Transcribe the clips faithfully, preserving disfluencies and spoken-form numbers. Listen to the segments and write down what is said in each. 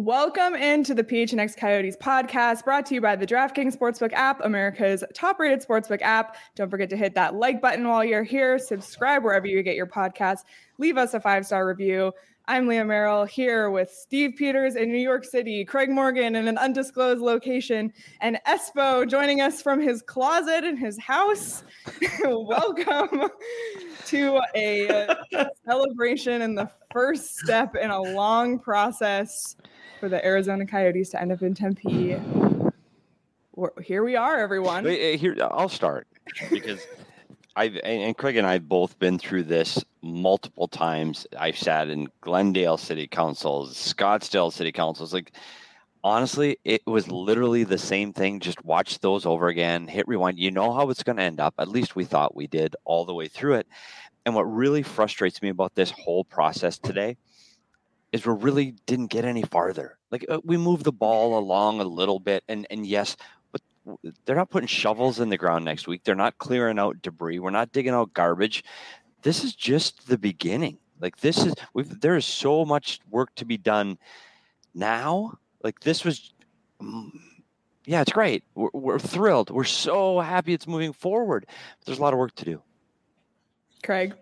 Welcome into the P H N X Coyotes podcast, brought to you by the DraftKings Sportsbook app, America's top-rated sportsbook app. Don't forget to hit that like button while you're here. Subscribe wherever you get your podcasts. Leave us a five-star review. I'm Leah Merrill here with Steve Peters in New York City, Craig Morgan in an undisclosed location, and Espo joining us from his closet in his house. Welcome to a celebration and the first step in a long process for the Arizona Coyotes to end up in Tempe. We're, here we are, everyone. Wait, here, I'll start because I've and Craig and I have both been through this multiple times. I've sat in Glendale City Councils, Scottsdale City Councils. Like, honestly, it was literally the same thing. Just watch those over again, hit rewind. You know how it's going to end up. At least we thought we did all the way through it. And what really frustrates me about this whole process today is we really didn't get any farther. Like, uh, we moved the ball along a little bit, and and yes, but they're not putting shovels in the ground next week. They're not clearing out debris. We're not digging out garbage. This is just the beginning. Like, this is we've, there is so much work to be done now. Like, this was, yeah, it's great. We're, we're thrilled. We're so happy it's moving forward. But there's a lot of work to do. Craig.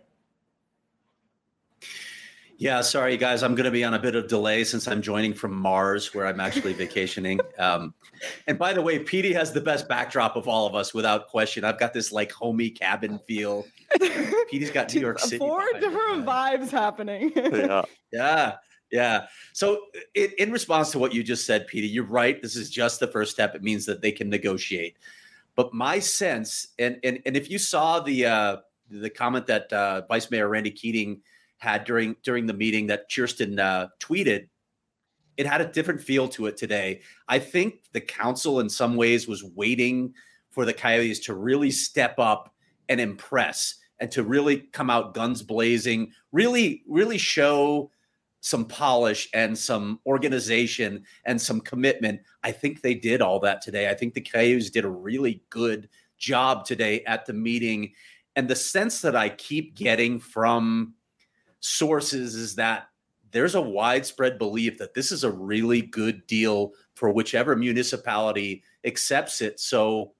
Yeah, sorry, guys. I'm going to be on a bit of delay since I'm joining from Mars, where I'm actually vacationing. Um, and by the way, Petey has the best backdrop of all of us, without question. I've got this like homey cabin feel. Petey's got New York City. Four different vibes happening. yeah, yeah, yeah. So it, in response to what you just said, Petey, you're right. This is just the first step. It means that they can negotiate. But my sense, and and and if you saw the uh, the comment that uh, Vice Mayor Randy Keating had during during the meeting that Kirsten uh, tweeted, it had a different feel to it today. I think the council in some ways was waiting for the Coyotes to really step up and impress and to really come out guns blazing, really, really show some polish and some organization and some commitment. I think they did all that today. I think the Coyotes did a really good job today at the meeting. And the sense that I keep getting from sources is that there's a widespread belief that this is a really good deal for whichever municipality accepts it. So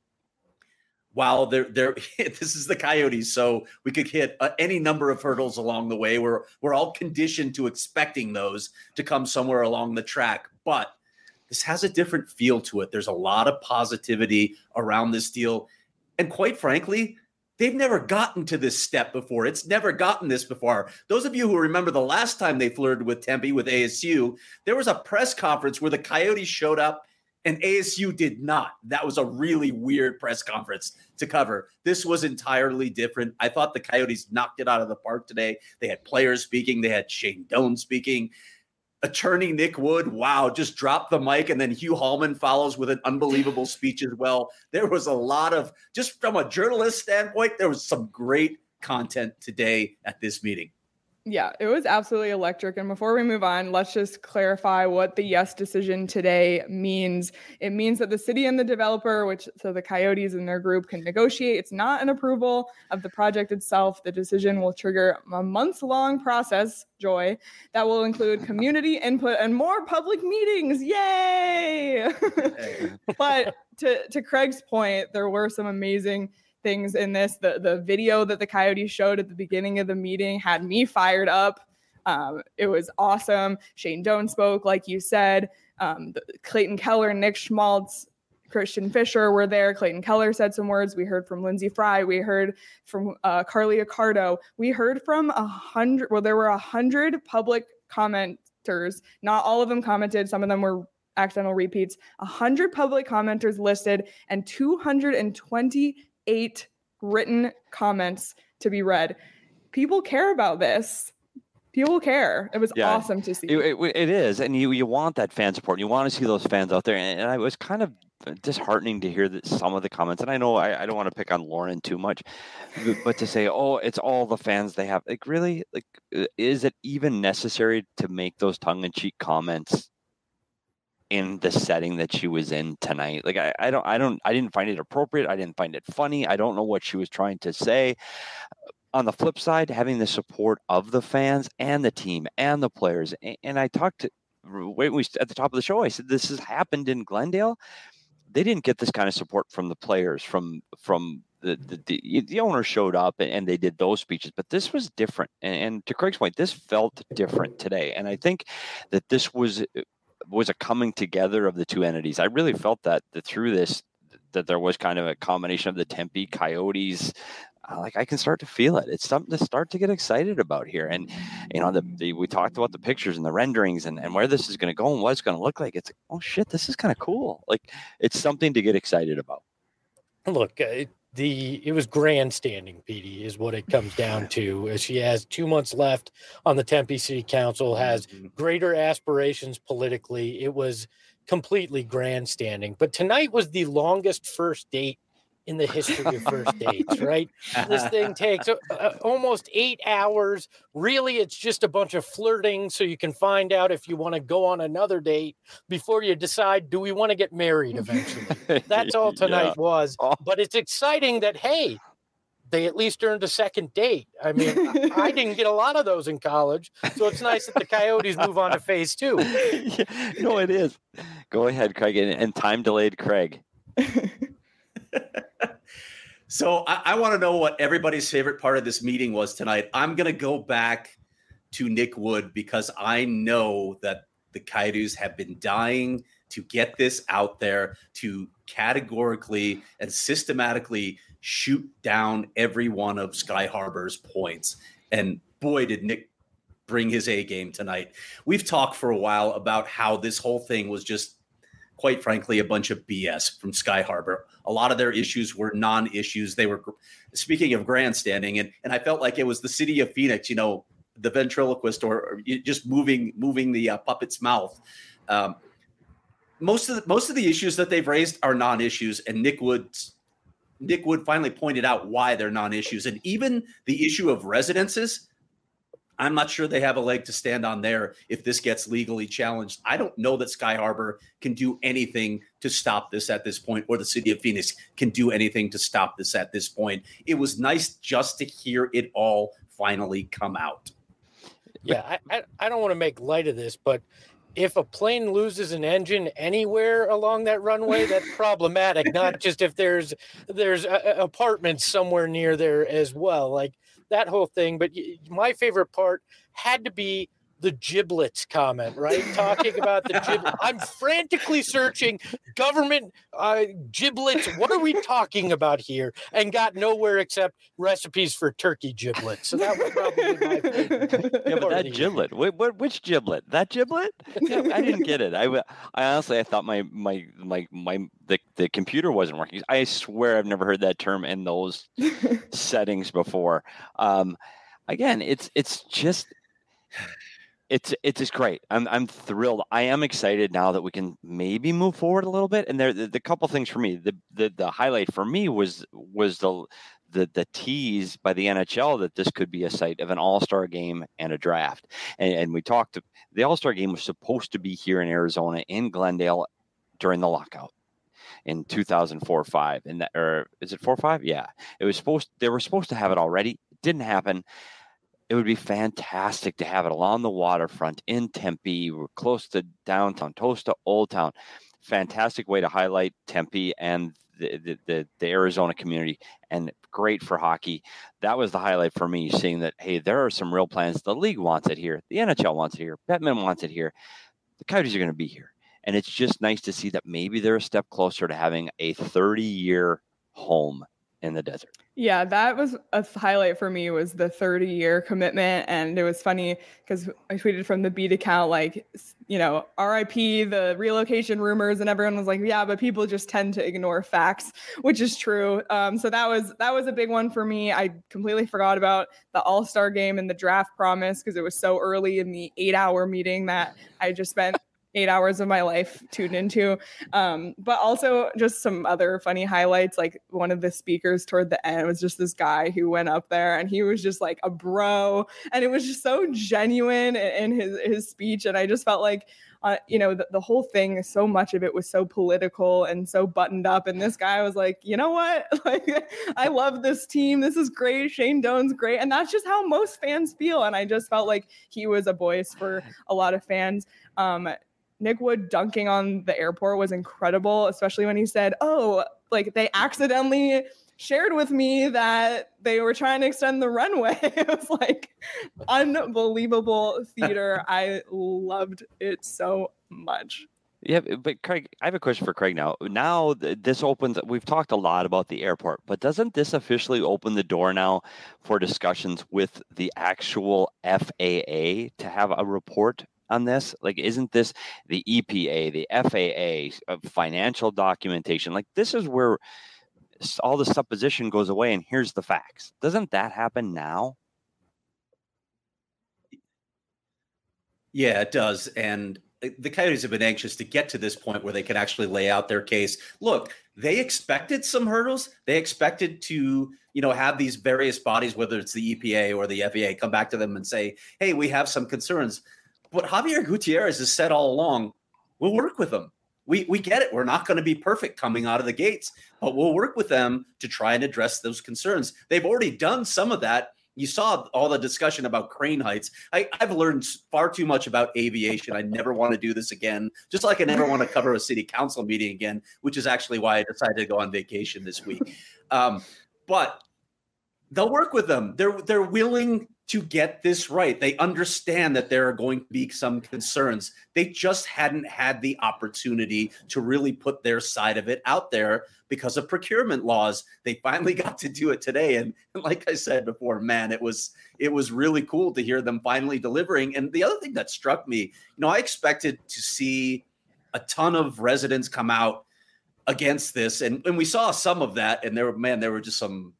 while they're, they're this is the Coyotes, so we could hit uh, any number of hurdles along the way. We're, we're all conditioned to expecting those to come somewhere along the track. But this has a different feel to it. There's a lot of positivity around this deal. And quite frankly, they've never gotten to this step before. It's never gotten this before. Those of you who remember the last time they flirted with Tempe, with A S U, there was a press conference where the Coyotes showed up and A S U did not. That was a really weird press conference to cover. This was entirely different. I thought the Coyotes knocked it out of the park today. They had players speaking. They had Shane Doan speaking. Attorney Nick Wood, wow, just dropped the mic, and then Hugh Hallman follows with an unbelievable speech as well. There was a lot of, just from a journalist standpoint, there was some great content today at this meeting. Yeah, it was absolutely electric. And before we move on, let's just clarify what the yes decision today means. It means that the city and the developer, which so the Coyotes and their group, can negotiate. It's not an approval of the project itself. The decision will trigger a months-long process, Joy, that will include community input and more public meetings. Yay! But to, to Craig's point, there were some amazing things in this. The the video that the Coyotes showed at the beginning of the meeting had me fired up. Um, it was awesome. Shane Doan spoke, like you said. Um, the, Clayton Keller, Nick Schmaltz, Christian Fisher were there. Clayton Keller said some words. We heard from Lindsey Fry. We heard from uh, Carly Accardo. We heard from a hundred. Well, there were a hundred public commenters. Not all of them commented. Some of them were accidental repeats. A hundred public commenters listed and two hundred twenty eight written comments to be read. People care about this. People care. It was yeah, awesome to see. It, it, it is. And you, you want that fan support. You want to see those fans out there. And, and I was kind of disheartening to hear that some of the comments, and I know I, I don't want to pick on Lauren too much, but, but to say, oh, it's all the fans they have. Like, really? Like, is it even necessary to make those tongue-in-cheek comments in the setting that she was in tonight? Like, I, I don't, I don't, I didn't find it appropriate. I didn't find it funny. I don't know what she was trying to say. On the flip side, having the support of the fans and the team and the players. And, and I talked to wait, we at the top of the show, I said this has happened in Glendale. They didn't get this kind of support from the players, from from the the, the, the owner showed up and, and they did those speeches, but this was different. And, and to Craig's point, this felt different today. And I think that this was was a coming together of the two entities. I really felt that, that through this, that there was kind of a combination of the Tempe Coyotes. Uh, like I can start to feel it. It's something to start to get excited about here. And, you know, the, the we talked about the pictures and the renderings and, and where this is going to go and what it's going to look like. It's like, oh shit, this is kind of cool. Like it's something to get excited about. Look, uh, the it was grandstanding, Petey, is what it comes down to. She has two months left on the Tempe City Council, has greater aspirations politically. It was completely grandstanding. But tonight was the longest first date in the history of first dates, right? This thing takes uh, almost eight hours. Really, it's just a bunch of flirting so you can find out if you want to go on another date before you decide, do we want to get married eventually? That's all tonight yeah. was. But it's exciting that, hey, they at least earned a second date. I mean, I didn't get a lot of those in college, so it's nice that the Coyotes move on to phase two. Yeah, no, it is. Go ahead, Craig, and, and time delayed Craig. So I, I want to know what everybody's favorite part of this meeting was tonight. I'm going to go back to Nick Wood because I know that the Coyotes have been dying to get this out there, to categorically and systematically shoot down every one of Sky Harbor's points. And boy, did Nick bring his A game tonight. We've talked for a while about how this whole thing was just, quite frankly, a bunch of B S from Sky Harbor. A lot of their issues were non-issues. They were, speaking of grandstanding, and, and I felt like it was the city of Phoenix, you know, the ventriloquist or, or just moving moving the uh, puppet's mouth. Um, most of the, most of the issues that they've raised are non-issues, and Nick Wood, Nick Wood finally pointed out why they're non-issues. And even the issue of residences, I'm not sure they have a leg to stand on there if this gets legally challenged. I don't know that Sky Harbor can do anything to stop this at this point, or the city of Phoenix can do anything to stop this at this point. It was nice just to hear it all finally come out. Yeah, I, I, I don't want to make light of this, but if a plane loses an engine anywhere along that runway, that's problematic. Not just if there's there's a, a apartments somewhere near there as well. Like, that whole thing. But my favorite part had to be the giblets comment, right? Talking about the giblets. I'm frantically searching government uh, giblets. What are we talking about here? And got nowhere except recipes for turkey giblets. So that was probably my favorite. Yeah, but that giblet, wait, what, which giblet? That giblet? Yeah, I didn't get it. I, I honestly, I thought my, my, my, my, the, the computer wasn't working. I swear I've never heard that term in those settings before. Um, again, it's, it's just, It's it's just great. I'm I'm thrilled. I am excited now that we can maybe move forward a little bit. And there, the, the couple things for me, the, the the highlight for me was was the the the tease by the N H L that this could be a site of an All-Star game and a draft. And, and we talked. The All-Star game was supposed to be here in Arizona in Glendale during the lockout in two thousand four five. And that, or is it four five? Yeah, it was supposed. They were supposed to have it already. It didn't happen. It would be fantastic to have it along the waterfront in Tempe. We're close to downtown, close to Old Town. Fantastic way to highlight Tempe and the, the, the, the Arizona community, and great for hockey. That was the highlight for me, seeing that, hey, there are some real plans. The league wants it here. The N H L wants it here. Bettman wants it here. The Coyotes are going to be here. And it's just nice to see that maybe they're a step closer to having a thirty-year home in the desert. Yeah, that was a highlight for me, was the thirty year commitment. And it was funny because I tweeted from the Beat account, like, you know, R I P the relocation rumors, and everyone was like, yeah, but people just tend to ignore facts, which is true. Um, so that was, that was a big one for me. I completely forgot about the All-Star game and the draft promise because it was so early in the eight hour meeting that I just spent eight hours of my life tuned into. Um, but also just some other funny highlights. Like, one of the speakers toward the end was just this guy who went up there and he was just like a bro. And it was just so genuine in his, his speech. And I just felt like uh, you know, the, the whole thing, so much of it was so political and so buttoned up. And this guy was like, you know what? Like, I love this team. This is great. Shane Doan's great. And that's just how most fans feel. And I just felt like he was a voice for a lot of fans. Um, Nick Wood dunking on the airport was incredible, especially when he said, oh, like they accidentally shared with me that they were trying to extend the runway. It was like unbelievable theater. I loved it so much. Yeah, but Craig, I have a question for Craig now. Now this opens, we've talked a lot about the airport, but doesn't this officially open the door now for discussions with the actual F A A to have a report on this? Like, isn't this the E P A, the F A A, uh, financial documentation? Like, this is where all the supposition goes away, and here's the facts. Doesn't that happen now? Yeah, it does. And the Coyotes have been anxious to get to this point where they can actually lay out their case. Look, they expected some hurdles. They expected to, you know, have these various bodies, whether it's the E P A or the F A A, come back to them and say, hey, we have some concerns. But Javier Gutierrez has said all along, we'll work with them. We we get it. We're not going to be perfect coming out of the gates, but we'll work with them to try and address those concerns. They've already done some of that. You saw all the discussion about crane heights. I, I've learned far too much about aviation. I never want to do this again, just like I never want to cover a city council meeting again, which is actually why I decided to go on vacation this week. Um, but they'll work with them. They're they're willing to get this right. They understand that there are going to be some concerns. They just hadn't had the opportunity to really put their side of it out there because of procurement laws. They finally got to do it today. And, and like I said before, man, it was it was really cool to hear them finally delivering. And the other thing that struck me, you know, I expected to see a ton of residents come out against this. And, and we saw some of that. And there were, man, there were just some,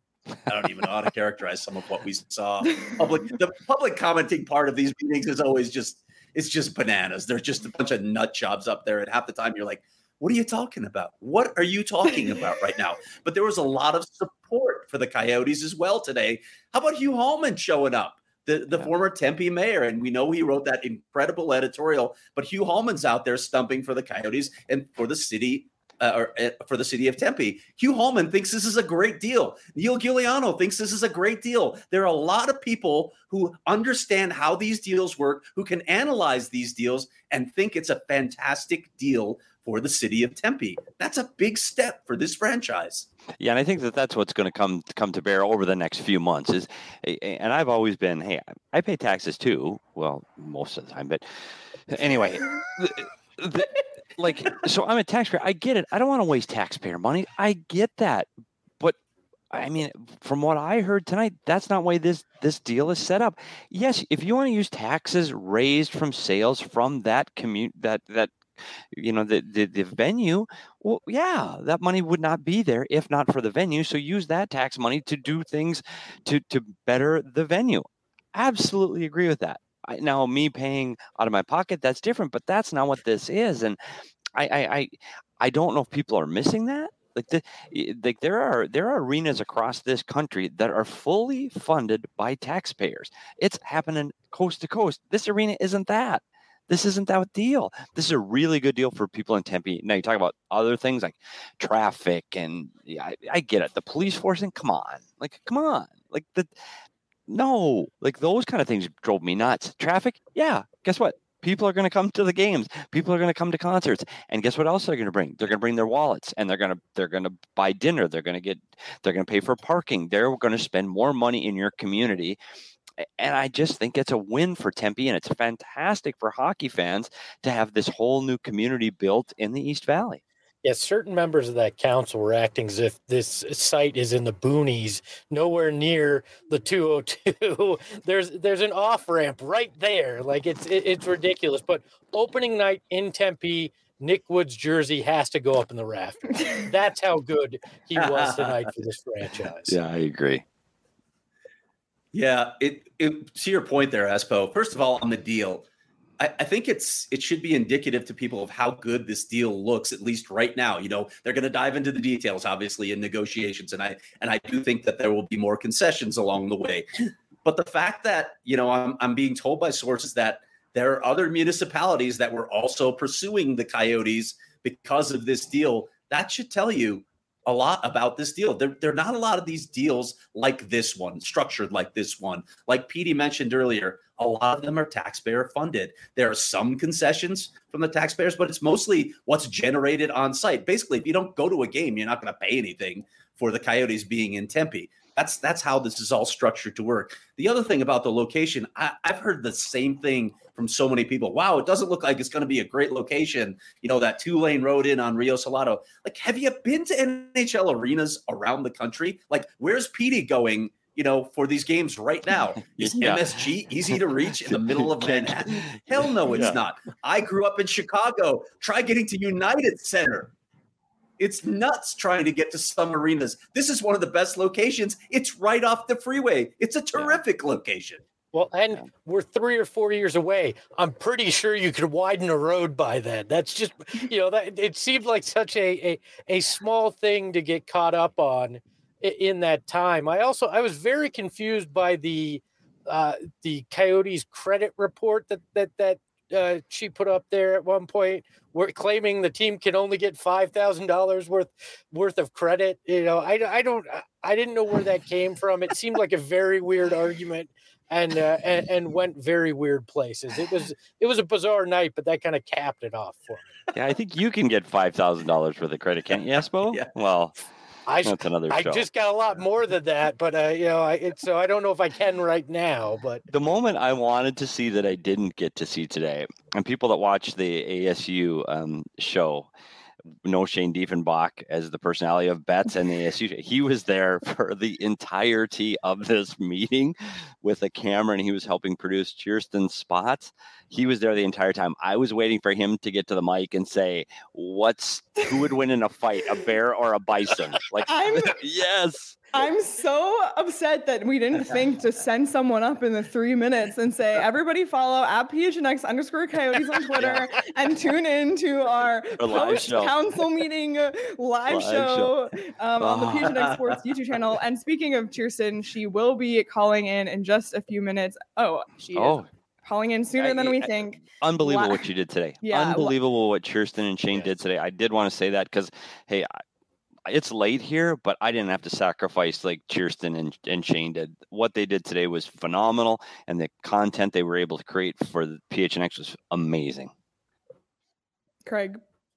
I don't even know how to characterize some of what we saw. Public, the public commenting part of these meetings is always just, it's just bananas. There's just a bunch of nut jobs up there. And half the time you're like, what are you talking about? What are you talking about right now? But there was a lot of support for the Coyotes as well today. How about Hugh Hallman showing up, the, the yeah. former Tempe mayor? And we know he wrote that incredible editorial, but Hugh Hallman's out there stumping for the Coyotes and for the city Uh, or uh, for the city of Tempe. Hugh Hallman thinks this is a great deal. Neil Giuliano thinks this is a great deal. There are a lot of people who understand how these deals work, who can analyze these deals and think it's a fantastic deal for the city of Tempe. That's a big step for this franchise. Yeah, and I think that that's what's going to come come to bear over the next few months. Is, and I've always been, hey, I pay taxes too. Well, most of the time, but anyway. the, the, Like, so I'm a taxpayer. I get it. I don't want to waste taxpayer money. I get that. But I mean, from what I heard tonight, that's not the way this, this deal is set up. Yes, if you want to use taxes raised from sales from that commute, that, that, you know, the, the, the venue, well, yeah, that money would not be there if not for the venue. So use that tax money to do things to, to better the venue. Absolutely agree with that. I, now, me paying out of my pocket, that's different, but that's not what this is. And I, I, I, I don't know if people are missing that. Like, the, like there are there are arenas across this country that are fully funded by taxpayers. It's happening coast to coast. This arena isn't that. This isn't that deal. This is a really good deal for people in Tempe. Now you talk about other things like traffic, and yeah, I, I get it. The police force, and come on, like come on, like the. No, like those kind of things drove me nuts. Traffic, yeah. Guess what? People are going to come to the games. People are going to come to concerts, and guess what else they're going to bring? They're going to bring their wallets, and they're going to they're going to buy dinner. They're going to get they're going to pay for parking. They're going to spend more money in your community, and I just think it's a win for Tempe, and it's fantastic for hockey fans to have this whole new community built in the East Valley. Yes, certain members of that council were acting as if this site is in the boonies, nowhere near the two oh two. There's there's an off ramp right there, like it's it, it's ridiculous. But opening night in Tempe, Nick Wood's jersey has to go up in the rafters. That's how good he was tonight for this franchise. Yeah, I agree. Yeah, it, it to your point there, Espo. First of all, on the deal. I think it's it should be indicative to people of how good this deal looks, at least right now. You know, they're going to dive into the details, obviously, in negotiations. And I and I do think that there will be more concessions along the way. But the fact that, you know, I'm I'm being told by sources that there are other municipalities that were also pursuing the Coyotes because of this deal. That should tell you a lot about this deal. There, there are not a lot of these deals like this one, structured like this one. Like Petey mentioned earlier, a lot of them are taxpayer funded. There are some concessions from the taxpayers, but it's mostly what's generated on site. Basically, if you don't go to a game, you're not going to pay anything for the Coyotes being in Tempe. That's that's how this is all structured to work. The other thing about the location, I, I've heard the same thing from so many people. Wow, it doesn't look like it's going to be a great location. You know, that two-lane road in on Rio Salado. Like, have you been to N H L arenas around the country? Like, where's Petey going, you know, for these games right now? Is yeah. M S G easy to reach in the middle of Manhattan? Hell no, it's yeah. not. I grew up in Chicago. Try getting to United Center. It's nuts trying to get to some arenas. This is one of the best locations. It's right off the freeway. It's a terrific yeah. location. Well, and yeah. we're three or four years away. I'm pretty sure you could widen a road by then. That's just, you know, that it seemed like such a, a, a small thing to get caught up on in that time. I also, I was very confused by the, uh, the Coyotes credit report that, that, that, Uh, she put up there at one point. We're claiming the team can only get five thousand dollars worth worth of credit. You know, I, I don't, I didn't know where that came from. It seemed like a very weird argument, and uh, and, and went very weird places. It was it was a bizarre night, but that kind of capped it off for me. Yeah, I think you can get five thousand dollars worth of credit, can't you, Espo? Yeah. Well. I, That's another show. I just got a lot more than that, but uh, you know, I, it, so I don't know if I can right now. But the moment I wanted to see that I didn't get to see today, and people that watch the A S U um, show know Shane Diefenbach as the personality of Bets and the A S U. He was there for the entirety of this meeting with a camera, and he was helping produce Cheerston's spots. He was there the entire time. I was waiting for him to get to the mic and say, "What's who would win in a fight, a bear or a bison?" Like, I'm, yes. I'm so upset that we didn't think to send someone up in the three minutes and say, everybody follow at P H N X underscore Coyotes on Twitter yeah. and tune in to our post-council meeting live, live show, show. Um, on the P H N X Sports YouTube channel. And speaking of Cheerston, she will be calling in in just a few minutes. Oh, she oh. is calling in sooner I, than we I, think. Unbelievable La- what you did today. Yeah, Unbelievable what Cheerston and Shane yes. did today. I did want to say that because, hey, I, it's late here, but I didn't have to sacrifice like Cheerston and, and Shane did. What they did today was phenomenal, and the content they were able to create for the P H N X was amazing. Craig.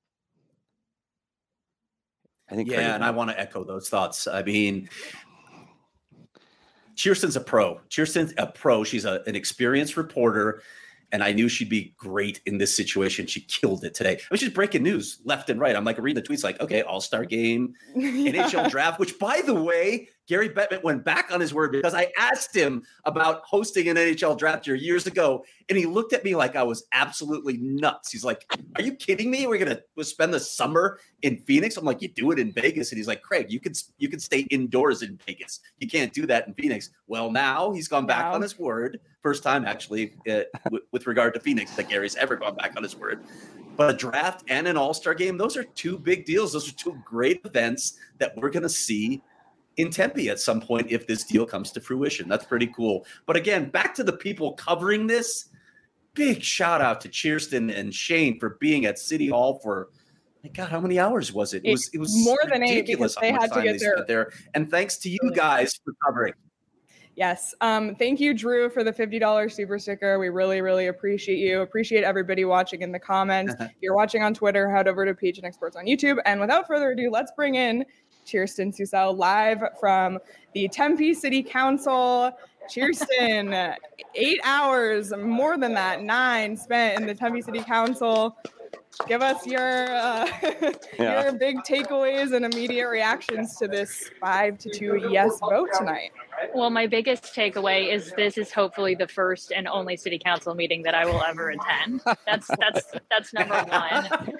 I think, yeah, Craig and I want to echo those thoughts. I mean, Cheerston's a pro. Cheerston's a pro. She's a, an experienced reporter. And I knew she'd be great in this situation. She killed it today. It was just breaking news left and right. I'm like reading the tweets like, okay, all-star game, yeah. N H L draft, which, by the way, Gary Bettman went back on his word because I asked him about hosting an N H L draft here years ago. And he looked at me like I was absolutely nuts. He's like, are you kidding me? We're going to spend the summer in Phoenix? I'm like, you do it in Vegas. And he's like, Craig, you can, you can stay indoors in Vegas. You can't do that in Phoenix. Well, now he's gone back wow. on his word. First time, actually, uh, w- with regard to Phoenix, that Gary's ever gone back on his word. But a draft and an all-star game, those are two big deals. Those are two great events that we're going to see in Tempe at some point if this deal comes to fruition. That's pretty cool. But again, back to the people covering this, big shout out to Cheerston and Shane for being at City Hall for, my God, how many hours was it? It, it was it was more than eight because they had to get there. there. And thanks to you guys for covering. Yes. Um, thank you, Drew, for the fifty dollars super sticker. We really, really appreciate you. Appreciate everybody watching in the comments. If you're watching on Twitter, head over to P H N X Sports on YouTube. And without further ado, let's bring in Cheerston Susel live from the Tempe City Council. Cheerston, eight hours, more than that, nine spent in the Tempe City Council. Give us your uh, yeah. your big takeaways and immediate reactions to this five to two yes vote tonight. Well, my biggest takeaway is this is hopefully the first and only city council meeting that I will ever attend. That's that's that's number one.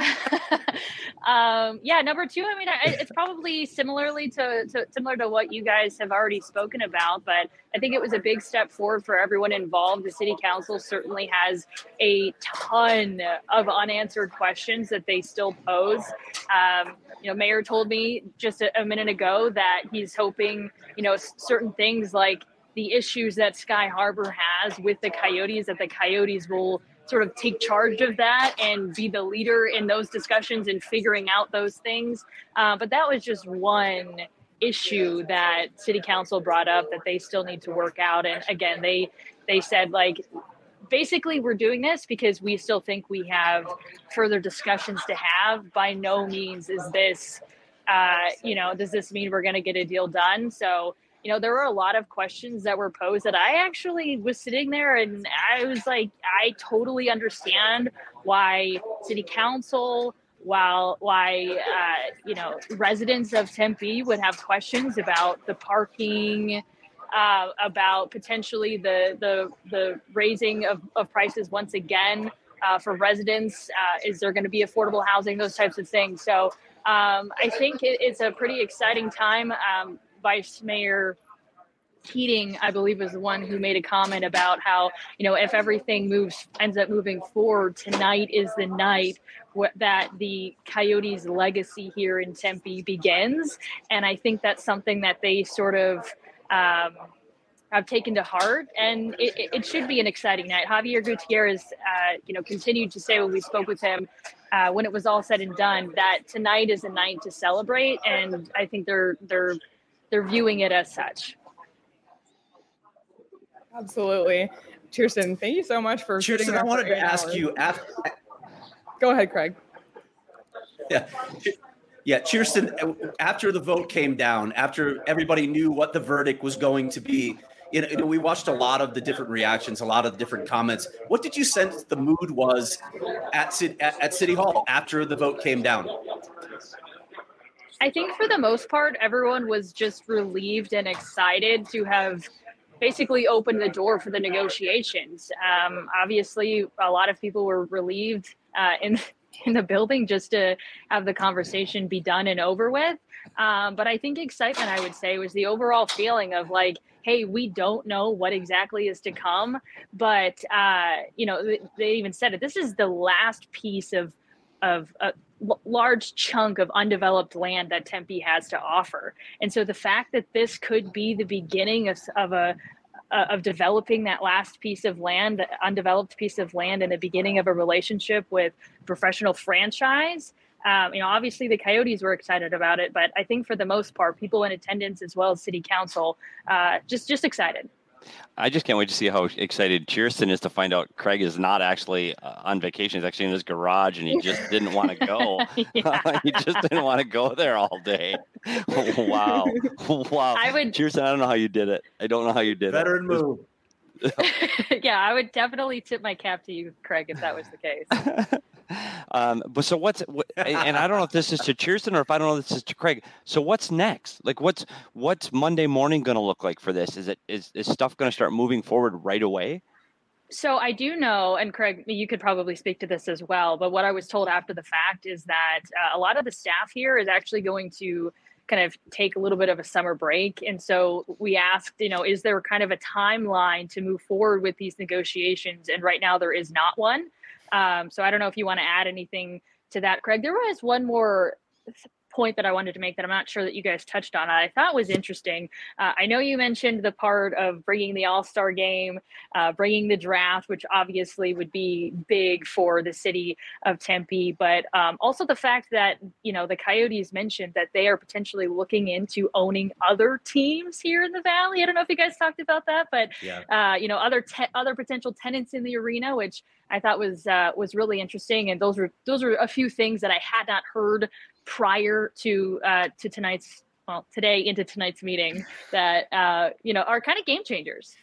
um, yeah, number two. I mean, I, it's probably similarly to, to similar to what you guys have already spoken about, but I think it was a big step forward for everyone involved. The city council certainly has a ton of unanswered questions that they still pose. Um, you know, Mayor told me just a, a minute ago that he's hoping, you know, certain things like the issues that Sky Harbor has with the Coyotes, that the Coyotes will sort of take charge of that and be the leader in those discussions and figuring out those things. Uh, but that was just one issue that City Council brought up that they still need to work out. And again, they they said, like, basically, we're doing this because we still think we have further discussions to have. By no means is this, uh, you know, does this mean we're going to get a deal done? So, you know, there were a lot of questions that were posed that I actually was sitting there and I was like, I totally understand why City Council, while why, uh, you know, residents of Tempe would have questions about the parking, uh, about potentially the the the raising of, of prices once again uh, for residents. Uh, is there going to be affordable housing? Those types of things. So um, I think it, it's a pretty exciting time. Um, Vice Mayor Keating, I believe, was the one who made a comment about how, you know, if everything moves, ends up moving forward, tonight is the night wh- that the Coyotes' legacy here in Tempe begins. And I think that's something that they sort of um, have taken to heart. And it, it should be an exciting night. Javier Gutierrez, uh, you know, continued to say when we spoke with him, uh, when it was all said and done, that tonight is a night to celebrate. And I think they're they're they're viewing it as such. Absolutely. Kirsten, thank you so much for Kirsten, sitting there I wanted for to eight ask hours. you after. Go ahead, Craig. Yeah. Yeah, Kirsten, after the vote came down, after everybody knew what the verdict was going to be, you know, you know, we watched a lot of the different reactions, a lot of the different comments. What did you sense the mood was at, at, at City Hall after the vote came down? I think for the most part, everyone was just relieved and excited to have basically opened the door for the negotiations. Um, obviously, a lot of people were relieved uh, in in the building just to have the conversation be done and over with. Um, but I think excitement, I would say, was the overall feeling of like, hey, we don't know what exactly is to come. But, uh, you know, they even said it. This is the last piece of of a l- large chunk of undeveloped land that Tempe has to offer. And so the fact that this could be the beginning of, of a uh, of developing that last piece of land, the undeveloped piece of land, and the beginning of a relationship with professional franchise. Um, you know, obviously the Coyotes were excited about it, but I think for the most part, people in attendance as well as City Council, uh, just just excited. I just can't wait to see how excited Kirsten is to find out Craig is not actually uh, on vacation. He's actually in his garage, and he just didn't want to go. He just didn't want to go there all day. Wow. Wow. I would, Kirsten, I don't know how you did it. I don't know how you did Veteran it. move. yeah, I would definitely tip my cap to you, Craig, if that was the case. um, but so what's, what, and I don't know if this is to Kirsten or if I don't know if this is to Craig. So what's next? Like what's, what's Monday morning going to look like for this? Is it, is, is stuff going to start moving forward right away? So I do know, and Craig, you could probably speak to this as well, but what I was told after the fact is that uh, a lot of the staff here is actually going to kind of take a little bit of a summer break. And so we asked, you know, is there kind of a timeline to move forward with these negotiations? And right now there is not one. Um, so I don't know if you want to add anything to that, Craig. There was one more point that I wanted to make that I'm not sure that you guys touched on. I thought was interesting. Uh, I know you mentioned the part of bringing the All-Star game, uh, bringing the draft, which obviously would be big for the city of Tempe, but um, also the fact that, you know, the Coyotes mentioned that they are potentially looking into owning other teams here in the Valley. I don't know if you guys talked about that, but, Yeah. uh, you know, other te- other potential tenants in the arena, which I thought was uh, was really interesting. And those were those were a few things that I had not heard prior to uh, to tonight's, well, today into tonight's meeting that, uh, you know, are kind of game changers.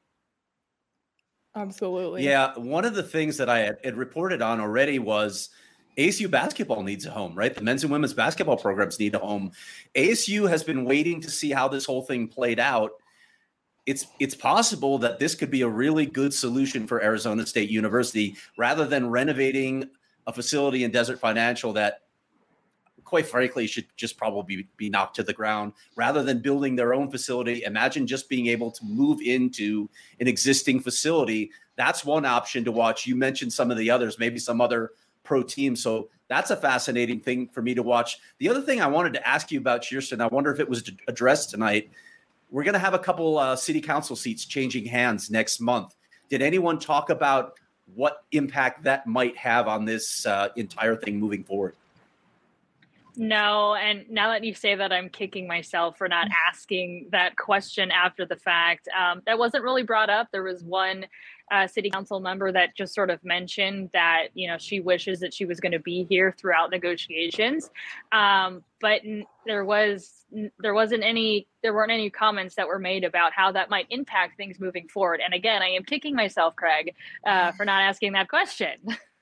Absolutely. Yeah, one of the things that I had, had reported on already was A S U basketball needs a home, right? The men's and women's basketball programs need a home. A S U has been waiting to see how this whole thing played out. It's it's possible that this could be a really good solution for Arizona State University rather than renovating a facility in Desert Financial that, quite frankly, should just probably be knocked to the ground rather than building their own facility. Imagine just being able to move into an existing facility. That's one option to watch. You mentioned some of the others, maybe some other pro teams. So that's a fascinating thing for me to watch. The other thing I wanted to ask you about, Kirsten, I wonder if it was addressed tonight, we're going to have a couple uh, city council seats changing hands next month. Did anyone talk about what impact that might have on this uh, entire thing moving forward? No, and now that you say that, I'm kicking myself for not asking that question after the fact. Um, that wasn't really brought up. There was one uh, city council member that just sort of mentioned that, you know, she wishes that she was going to be here throughout negotiations. Um, but n- there was n- there wasn't any there weren't any comments that were made about how that might impact things moving forward. And again, I am kicking myself, Craig, uh, for not asking that question.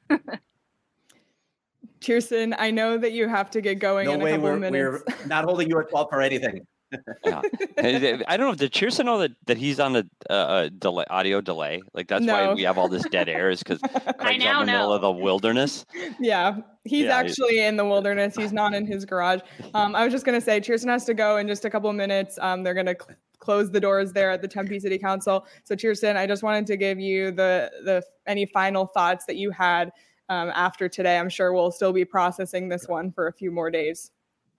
Kirsten, I know that you have to get going No in a way, couple we're, minutes. we're not holding you at twelve for anything. Yeah. I don't know. Did Cheerson know that, that he's on a, uh, a delay, audio delay? Like that's No. why we have all this dead air is because Craig's now out in the middle know. of the wilderness. Yeah, he's Yeah, actually in the wilderness. He's not in his garage. Um, I was just going to say, Cheerson has to go in just a couple of minutes. Um, they're going to cl- close the doors there at the Tempe City Council. So Cheerson, I just wanted to give you the the any final thoughts that you had um, after today. I'm sure we'll still be processing this one for a few more days.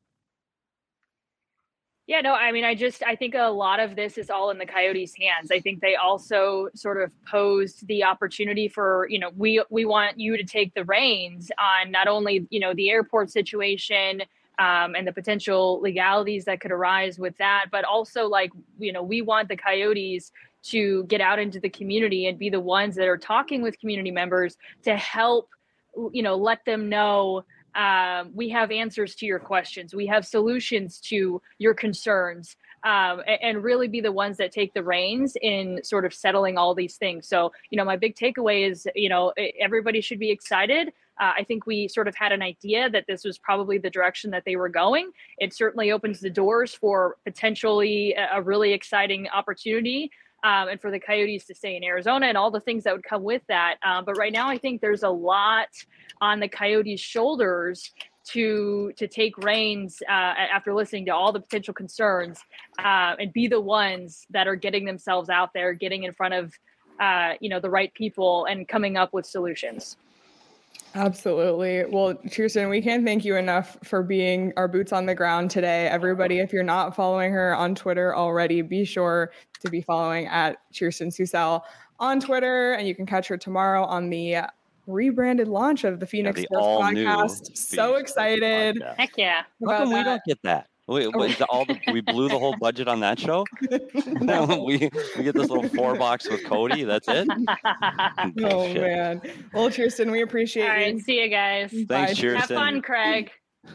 Yeah, no, I mean, I just, I think a lot of this is all in the Coyotes' hands. I think they also sort of posed the opportunity for, you know, we we want you to take the reins on not only, you know, the airport situation um, and the potential legalities that could arise with that, but also like, you know, we want the Coyotes to get out into the community and be the ones that are talking with community members to help, you know, let them know Um, we have answers to your questions. We have solutions to your concerns, um, and, and really be the ones that take the reins in sort of settling all these things. So, you know, my big takeaway is, you know, everybody should be excited. Uh, I think we sort of had an idea that this was probably the direction that they were going. It certainly opens the doors for potentially a, a really exciting opportunity. Um, and for the Coyotes to stay in Arizona and all the things that would come with that. Um, but right now, I think there's a lot on the Coyotes' shoulders to to take reins uh, after listening to all the potential concerns uh, and be the ones that are getting themselves out there, getting in front of uh, you know the right people and coming up with solutions. Absolutely. Well, Kirsten, we can't thank you enough for being our boots on the ground today. Everybody, if you're not following her on Twitter already, be sure to be following at Kirsten Susel on Twitter, and you can catch her tomorrow on the rebranded launch of the Phoenix Yeah, the Sports all-new Podcast. So Phoenix excited. Podcast. Heck yeah. How come about we that. don't get that? We, Oh. is the, all the, we blew the whole budget on that show. No. we we get this little four box with Cody. That's it. Oh, Bullshit. man. Well, Kirsten, we appreciate All you. right. See you guys. Thanks, Bye. Kirsten. Have fun, Craig.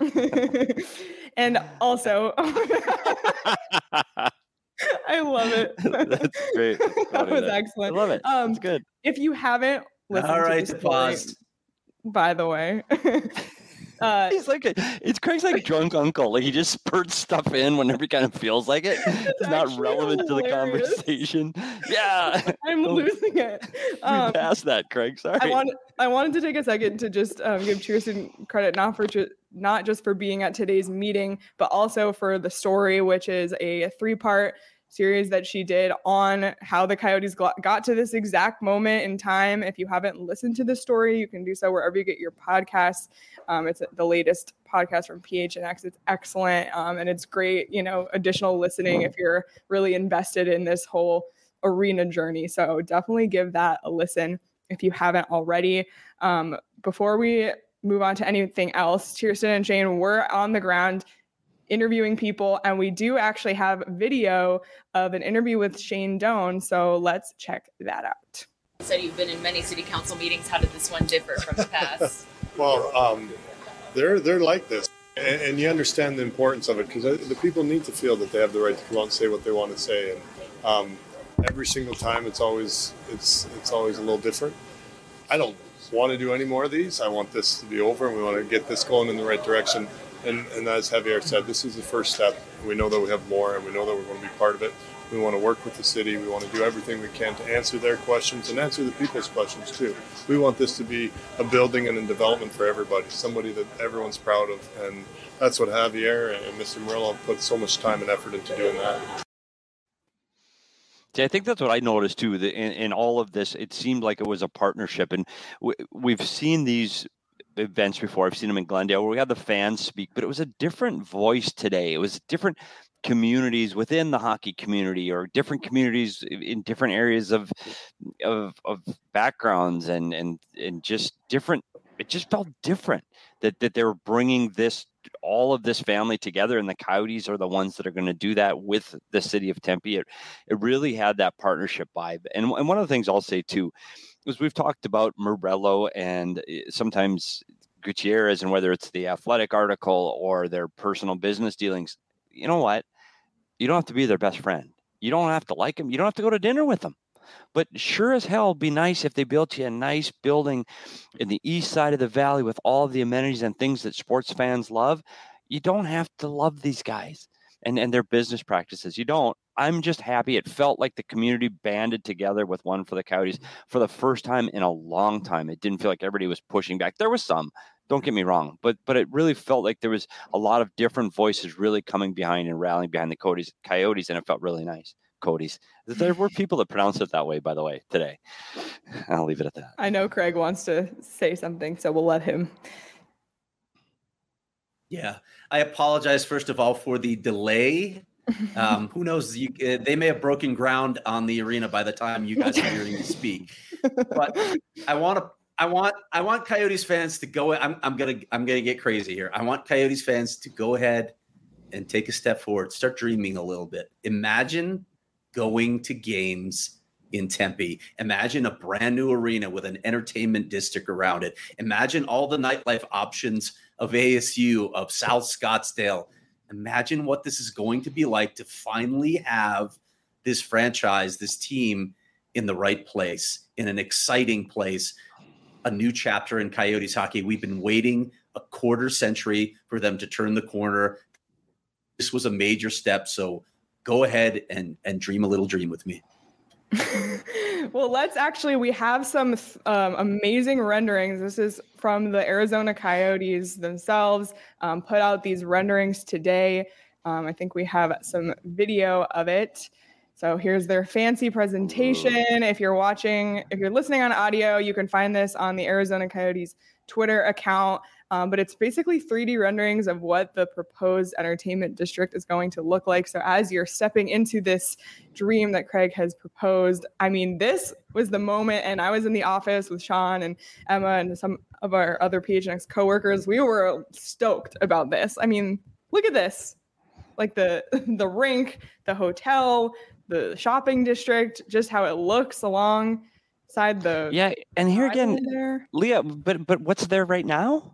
And also, I love it. That's great. That's That funny, was that- excellent. I love it. Um, It's good. If you haven't listened All to right, the story, pause. by the way, uh, He's like a, it's Craig's like drunk uncle. Like he just spurts stuff in whenever he kind of feels like it. It's not actually relevant to the hilarious. conversation. Yeah, I'm losing it. we Um, passed that, Craig. Sorry. I wanted I wanted to take a second to just um, give Kirsten credit not for ju- not just for being at today's meeting, but also for the story, which is a three part series that she did on how the Coyotes got, got to this exact moment in time. If you haven't listened to the story, you can do so wherever you get your podcasts. Um, it's the latest podcast from P H N X. It's excellent, um, and it's great, you know, additional listening if you're really invested in this whole arena journey. So definitely give that a listen if you haven't already. Um, before we move on to anything else, Kirsten and Shane were on the ground interviewing people, and we do actually have video of an interview with Shane Doan, so let's check that out. So you've been in many city council meetings. How did this one differ from the past? Well, um, they're they're like this, and, and you understand the importance of it because the people need to feel that they have the right to come out and say what they want to say, and um, every single time it's always it's it's always a little different. I don't want to do any more of these. I want this to be over, and we want to get this going in the right direction. And, and as Javier said, this is the first step. We know that we have more, and we know that we're going to be part of it. We want to work with the city. We want to do everything we can to answer their questions and answer the people's questions too. We want this to be a building and a development for everybody, somebody that everyone's proud of. And that's what Javier and Mister Murillo put so much time and effort into doing that. See, I think that's what I noticed too. That in, in all of this, it seemed like it was a partnership, and we, we've seen these events before. I've seen them in Glendale where we had the fans speak, but it was a different voice today. It was different communities within the hockey community, or different communities in different areas of of, of backgrounds, and and and just different. It just felt different that that they were bringing this all of this family together, and the Coyotes are the ones that are going to do that with the city of Tempe. It it really had that partnership vibe. And and one of the things I'll say too is we've talked about Morello and sometimes Gutierrez, and whether it's the Athletic article or their personal business dealings. You know what? You don't have to be their best friend. You don't have to like them. You don't have to go to dinner with them. But sure as hell be nice if they built you a nice building in the east side of the valley with all of the amenities and things that sports fans love. You don't have to love these guys and, and their business practices. You don't. I'm just happy. It felt like the community banded together with one for the Coyotes for the first time in a long time. It didn't feel like everybody was pushing back. There was some. Don't get me wrong, but but it really felt like there was a lot of different voices really coming behind and rallying behind the Coyotes, Coyotes, and it felt really nice. Coyotes. There were people that pronounced it that way, by the way, today. I'll leave it at that. I know Craig wants to say something, so we'll let him. Yeah, I apologize first of all for the delay. Um, who knows? You, uh, they may have broken ground on the arena by the time you guys are hearing me speak. But I want to. I want I want Coyotes fans to go. I'm I'm gonna I'm gonna get crazy here. I want Coyotes fans to go ahead and take a step forward. Start dreaming a little bit. Imagine going to games in Tempe. Imagine a brand new arena with an entertainment district around it. Imagine all the nightlife options of A S U, of South Scottsdale. Imagine what this is going to be like to finally have this franchise, this team in the right place, in an exciting place. A new chapter in Coyotes hockey. We've been waiting a quarter century for them to turn the corner. This was a major step. So go ahead and, and dream a little dream with me. Well, let's actually, we have some um, amazing renderings. This is from the Arizona Coyotes themselves, um, put out these renderings today. Um, I think we have some video of it. So here's their fancy presentation. If you're watching, if you're listening on audio, you can find this on the Arizona Coyotes Twitter account. Um, but it's basically three D renderings of what the proposed entertainment district is going to look like. So as you're stepping into this dream that Craig has proposed, I mean, this was the moment. And I was in the office with Sean and Emma and some of our other P H N X coworkers. We were stoked about this. I mean, look at this. Like the the rink, the hotel, the shopping district, just how it looks alongside the yeah. And here again, there. Leah, but but what's there right now?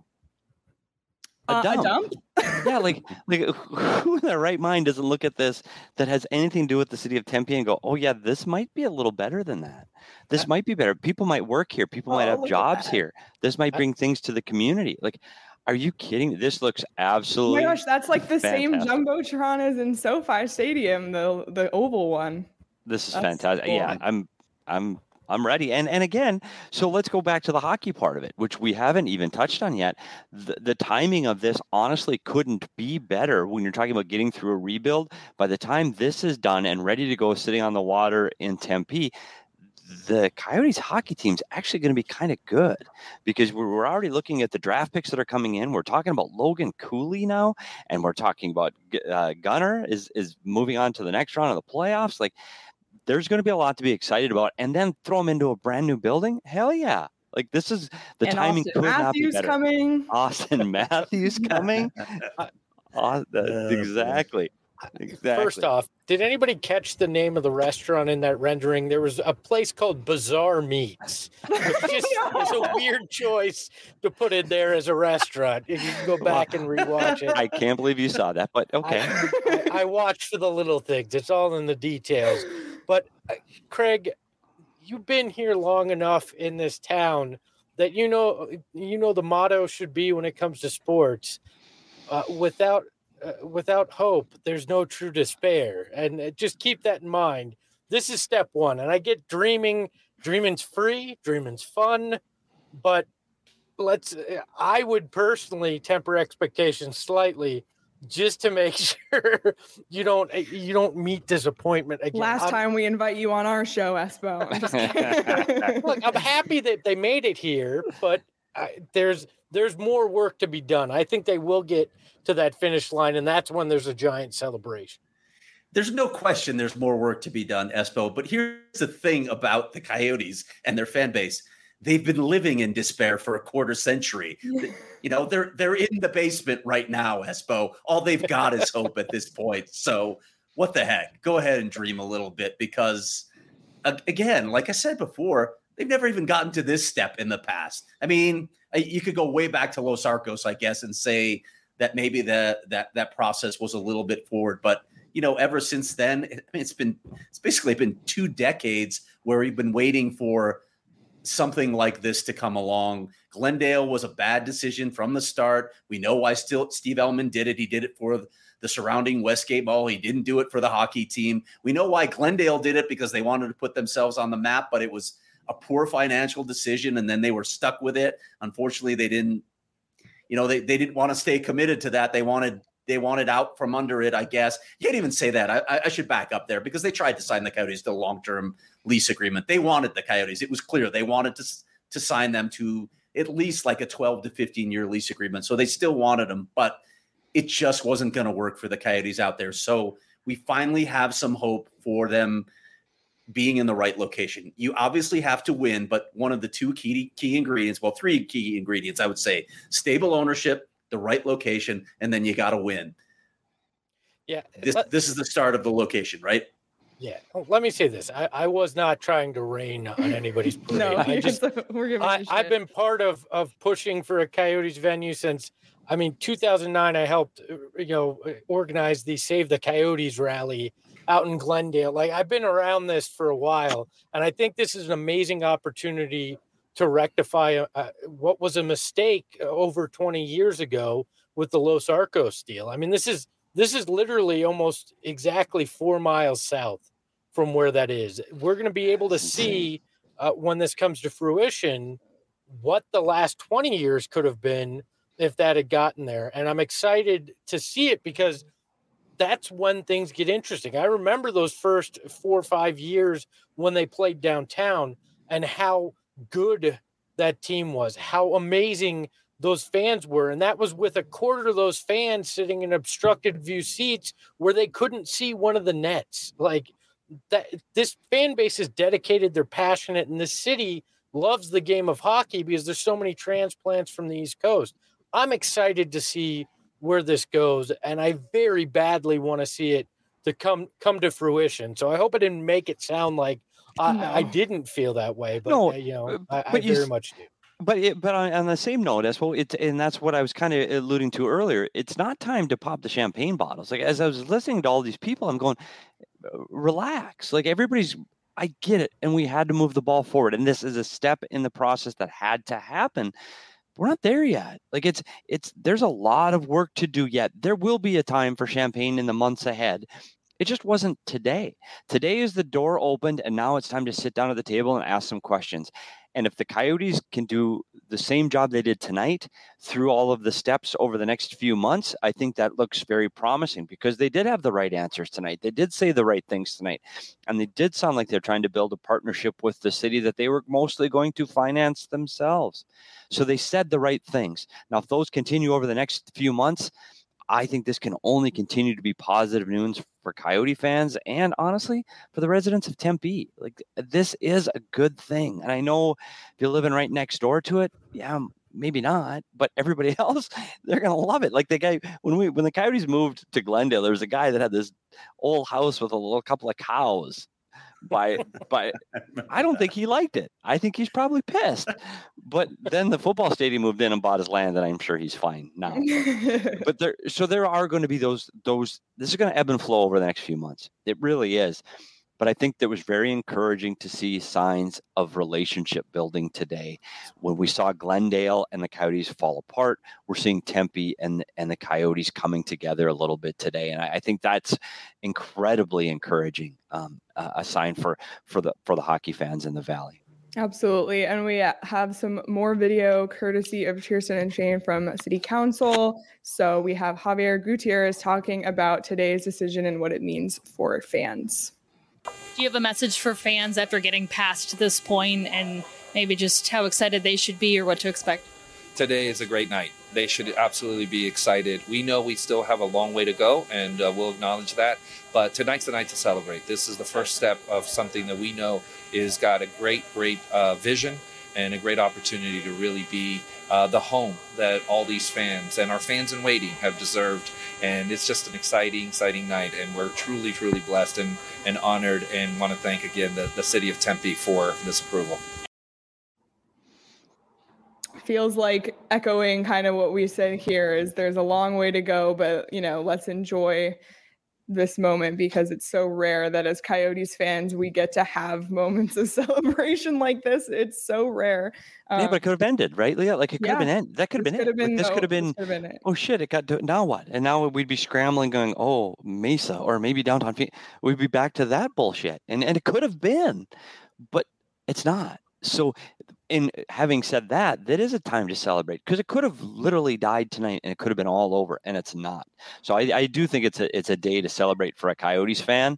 A Uh, dump. a dump? Yeah, like like who in their right mind doesn't look at this that has anything to do with the city of Tempe and go, oh yeah, this might be a little better than that. This might be better. People might work here. People Oh, might have look at jobs that. here. This might bring things to the community. Like, are you kidding? This looks Oh my absolutely. gosh, that's like the same fantastic. jumbotron as in SoFi Stadium, the the oval one. This is That's fantastic. cool. Yeah, I'm I'm I'm ready. And and again, so let's go back to the hockey part of it, which we haven't even touched on yet. The, the timing of this honestly couldn't be better when you're talking about getting through a rebuild. By the time this is done and ready to go sitting on the water in Tempe, the Coyotes hockey team's actually going to be kind of good because we're, we're already looking at the draft picks that are coming in. We're talking about Logan Cooley now, and we're talking about uh, Gunnar is is moving on to the next round of the playoffs. Like, there's going to be a lot to be excited about, and then throw them into a brand new building. Hell yeah. Like, this is the and timing Austin could not be Matthews better. coming. Austin Matthews coming. Uh, that- exactly. Exactly. First off, did anybody catch the name of the restaurant in that rendering? There was a place called Bizarre Meats, which just is a weird choice to put in there as a restaurant. If you can go back and rewatch it. I can't believe you saw that, but okay. I, I, I watched for the little things. It's all in the details. But uh, Craig, you've been here long enough in this town that you know you know the motto should be when it comes to sports: uh, without uh, without hope, there's no true despair. And uh, just keep that in mind. This is step one. And I get dreaming. Dreaming's free. Dreaming's fun. But let's. I would personally temper expectations slightly, just to make sure you don't you don't meet disappointment again. Last I'm, time we invite you on our show, Espo. I'm just kidding. Look, I'm happy that they made it here, but I, there's there's more work to be done. I think they will get to that finish line, and that's when there's a giant celebration. There's no question there's more work to be done, Espo. But here's the thing about the Coyotes and their fan base. They've been living in despair for a quarter century. You know, they're they're in the basement right now, Espo. All they've got is hope at this point. So what the heck? Go ahead and dream a little bit because, again, like I said before, they've never even gotten to this step in the past. I mean, you could go way back to Los Arcos, I guess, and say that maybe the, that that process was a little bit forward. But, you know, ever since then, I mean, it's been it's basically been two decades where we've been waiting for something like this to come along. Glendale was a bad decision from the start. We know why still Steve Ellman did it. He did it for the surrounding Westgate Mall. He didn't do it for the hockey team. We know why Glendale did it because they wanted to put themselves on the map, but it was a poor financial decision, and then they were stuck with it. Unfortunately, they didn't, you know, they, they didn't want to stay committed to that. They wanted they wanted out from under it, I guess. You can't even say that. I, I should back up there because they tried to sign the Coyotes to a long-term lease agreement. They wanted the Coyotes. It was clear they wanted to, to sign them to at least like a twelve to fifteen year lease agreement. So they still wanted them, but it just wasn't going to work for the Coyotes out there. So we finally have some hope for them being in the right location. You obviously have to win, but one of the two key key ingredients, well, three key ingredients, I would say, stable ownership, the right location, and then you got to win. Yeah. This, this is the start of the location, right? Yeah. Oh, let me say this. I, I was not trying to rain on anybody's parade. No, I just, we're giving I, you I've shit. been part of, of pushing for a Coyotes venue since, I mean, two thousand nine, I helped, you know, organize the Save the Coyotes rally out in Glendale. Like, I've been around this for a while, and I think this is an amazing opportunity to rectify uh, what was a mistake over twenty years ago with the Los Arcos deal. I mean, this is this is literally almost exactly four miles south from where that is. We're going to be able to see uh, when this comes to fruition what the last twenty years could have been if that had gotten there. And I'm excited to see it because that's when things get interesting. I remember those first four or five years when they played downtown and how good that team was, how amazing those fans were. And that was with a quarter of those fans sitting in obstructed view seats where they couldn't see one of the nets. Like that, this fan base is dedicated, they're passionate, and this city loves the game of hockey because there's so many transplants from the East Coast. I'm excited to see where this goes, and I very badly want to see it to come come to fruition. So I hope I didn't make it sound like I, No. I didn't feel that way, but No, uh, you know, but I, I you very s- much do. But it, but on, on the same note, as well, it's and that's what I was kind of alluding to earlier. It's not time to pop the champagne bottles. Like as I was listening to all these people, I'm going, relax. Like everybody's, I get it, and we had to move the ball forward, and this is a step in the process that had to happen. We're not there yet. Like it's it's there's a lot of work to do yet. There will be a time for champagne in the months ahead. It just wasn't today. Today is the door opened, and now it's time to sit down at the table and ask some questions. And if the Coyotes can do the same job they did tonight through all of the steps over the next few months, I think that looks very promising because they did have the right answers tonight. They did say the right things tonight. And they did sound like they're trying to build a partnership with the city that they were mostly going to finance themselves. So they said the right things. Now, if those continue over the next few months, I think this can only continue to be positive news for Coyote fans and honestly for the residents of Tempe. Like this is a good thing. And I know if you're living right next door to it, yeah, maybe not, but everybody else, they're going to love it. Like the guy, when we, when the Coyotes moved to Glendale, there was a guy that had this old house with a little couple of cows by, by, I don't think he liked it. I think he's probably pissed, but then the football stadium moved in and bought his land and I'm sure he's fine now. But there, so there are going to be those, those, this is going to ebb and flow over the next few months. It really is. But I think that was very encouraging to see signs of relationship building today. When we saw Glendale and the Coyotes fall apart, we're seeing Tempe and, and the Coyotes coming together a little bit today. And I, I think that's incredibly encouraging, um, uh, a sign for, for the, for the hockey fans in the Valley. Absolutely. And we have some more video courtesy of Kirsten and Shane from City Council. So we have Javier Gutierrez talking about today's decision and what it means for fans. Do you have a message for fans after getting past this point and maybe just how excited they should be or what to expect? today is a great night. They should absolutely be excited. We know we still have a long way to go, and uh, we'll acknowledge that. But tonight's the night to celebrate. This is the first step of something that we know is got a great, great uh, vision and a great opportunity to really be uh, the home that all these fans and our fans in waiting have deserved. And it's just an exciting, exciting night. And we're truly, truly blessed and, and honored, and want to thank again the, the city of Tempe for this approval. Feels like echoing kind of what we said here is there's a long way to go, but, you know, let's enjoy this moment because it's so rare that as Coyotes fans, we get to have moments of celebration like this. It's so rare. Um, yeah, but it could have ended, right, Leah? Like it could yeah, have been end. That could have been could it. Have been, like, this no, could have been, been it. Oh shit, it got to, now what? And now we'd be scrambling going, oh, Mesa or maybe downtown. We'd be back to that bullshit. And, and it could have been, but it's not. So in having said that, that is a time to celebrate because it could have literally died tonight and it could have been all over, and it's not. So I, I do think it's a it's a day to celebrate for a Coyotes fan.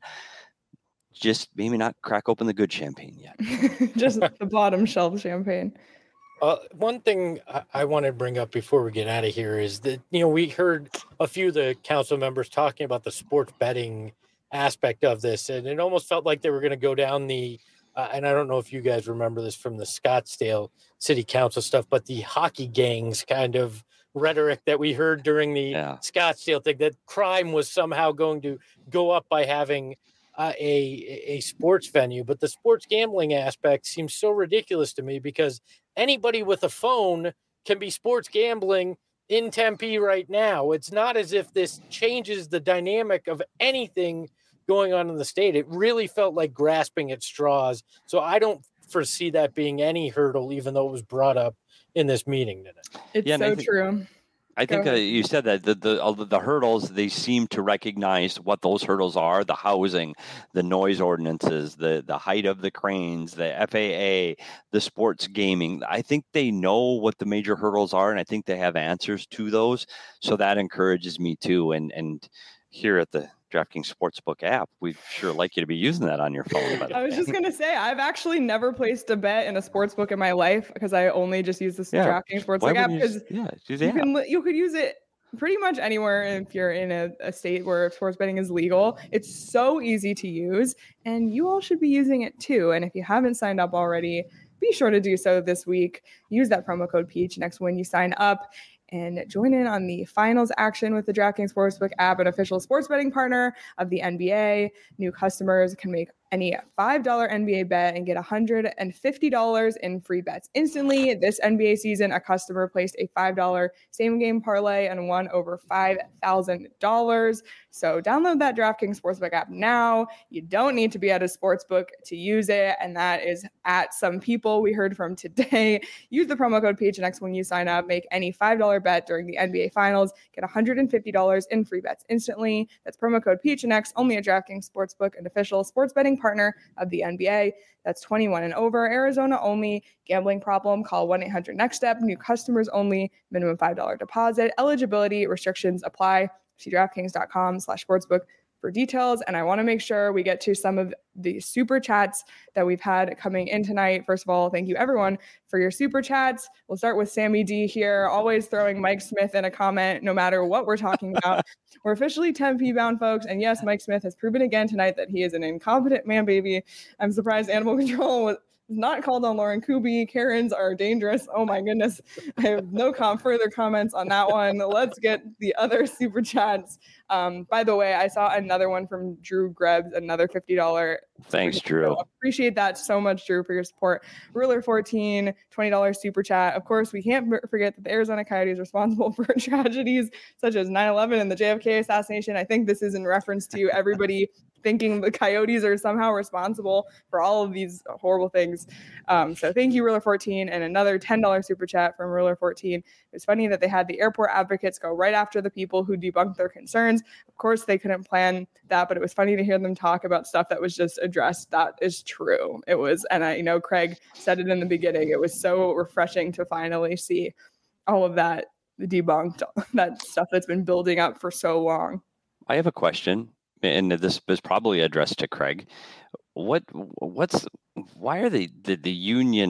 Just maybe not crack open the good champagne yet. Just the bottom shelf champagne. Uh, one thing I, I want to bring up before we get out of here is that, you know, we heard a few of the council members talking about the sports betting aspect of this, and it almost felt like they were going to go down the Uh, and I don't know if you guys remember this from the Scottsdale City Council stuff, but the hockey gangs kind of rhetoric that we heard during the yeah. Scottsdale thing, that crime was somehow going to go up by having uh, a, a sports venue. But the sports gambling aspect seems so ridiculous to me because anybody with a phone can be sports gambling in Tempe right now. It's not as if this changes the dynamic of anything going on in the state. It really felt like grasping at straws. So I don't foresee that being any hurdle, even though it was brought up in this meeting today. It's yeah, so I think, true. I think uh, you said that the, the, all the the hurdles, they seem to recognize what those hurdles are: the housing, the noise ordinances, the, the height of the cranes, the F A A, the sports gaming. I think they know what the major hurdles are, and I think they have answers to those. So that encourages me too. And, and here at the DraftKings Sportsbook app, we'd sure like you to be using that on your phone. I was just going to say, I've actually never placed a bet in a sportsbook in my life because I only just use this yeah. DraftKings Sportsbook app because yeah, you, can, you could use it pretty much anywhere if you're in a, a state where sports betting is legal. It's so easy to use, and you all should be using it too. And if you haven't signed up already, be sure to do so this week. Use that promo code P H next when you sign up. And join in on the finals action with the DraftKings Sportsbook app, an official sports betting partner of the N B A. New customers can make any five dollars N B A bet and get one hundred fifty dollars in free bets instantly. This N B A season, a customer placed a five dollars same-game parlay and won over five thousand dollars. So download that DraftKings Sportsbook app now. You don't need to be at a sportsbook to use it, and that is at some people we heard from today. Use the promo code P H N X when you sign up. Make any five dollars bet during the N B A Finals. Get one hundred fifty dollars in free bets instantly. That's promo code P H N X, only at DraftKings Sportsbook, an official sports betting partner of the N B A. That's twenty-one and over. Arizona only. Gambling problem? Call one eight hundred next step. New customers only. Minimum five dollars deposit. Eligibility restrictions apply. See DraftKings.com slash sportsbook for details. And I want to make sure we get to some of the super chats that we've had coming in tonight. First of all, thank you everyone for your super chats. We'll start with Sammy D here, always throwing Mike Smith in a comment, no matter what we're talking about. We're officially Tempe bound, folks. And yes, Mike Smith has proven again tonight that he is an incompetent man baby. I'm surprised Animal Control was not called on Lauren Kuby. Karens are dangerous. Oh my goodness. I have no com- further comments on that one. Let's get the other super chats. Um, by the way, I saw another one from Drew Grebs, another fifty dollars. Thanks, Drew. So appreciate that so much, Drew, for your support. Ruler fourteen, twenty dollars super chat. Of course, we can't forget that the Arizona Coyotes are responsible for tragedies such as nine eleven and the J F K assassination. I think this is in reference to everybody thinking the Coyotes are somehow responsible for all of these horrible things. Um, so thank you, Ruler fourteen, and another ten dollars super chat from Ruler fourteen. It's funny that they had the airport advocates go right after the people who debunked their concerns. Of course, they couldn't plan that, but it was funny to hear them talk about stuff that was just addressed. That is true. It was, and I you know Craig said it in the beginning, it was so refreshing to finally see all of that debunked, that stuff that's been building up for so long. I have a question. And this is probably addressed to Craig. What, what's, why are they, the, the union,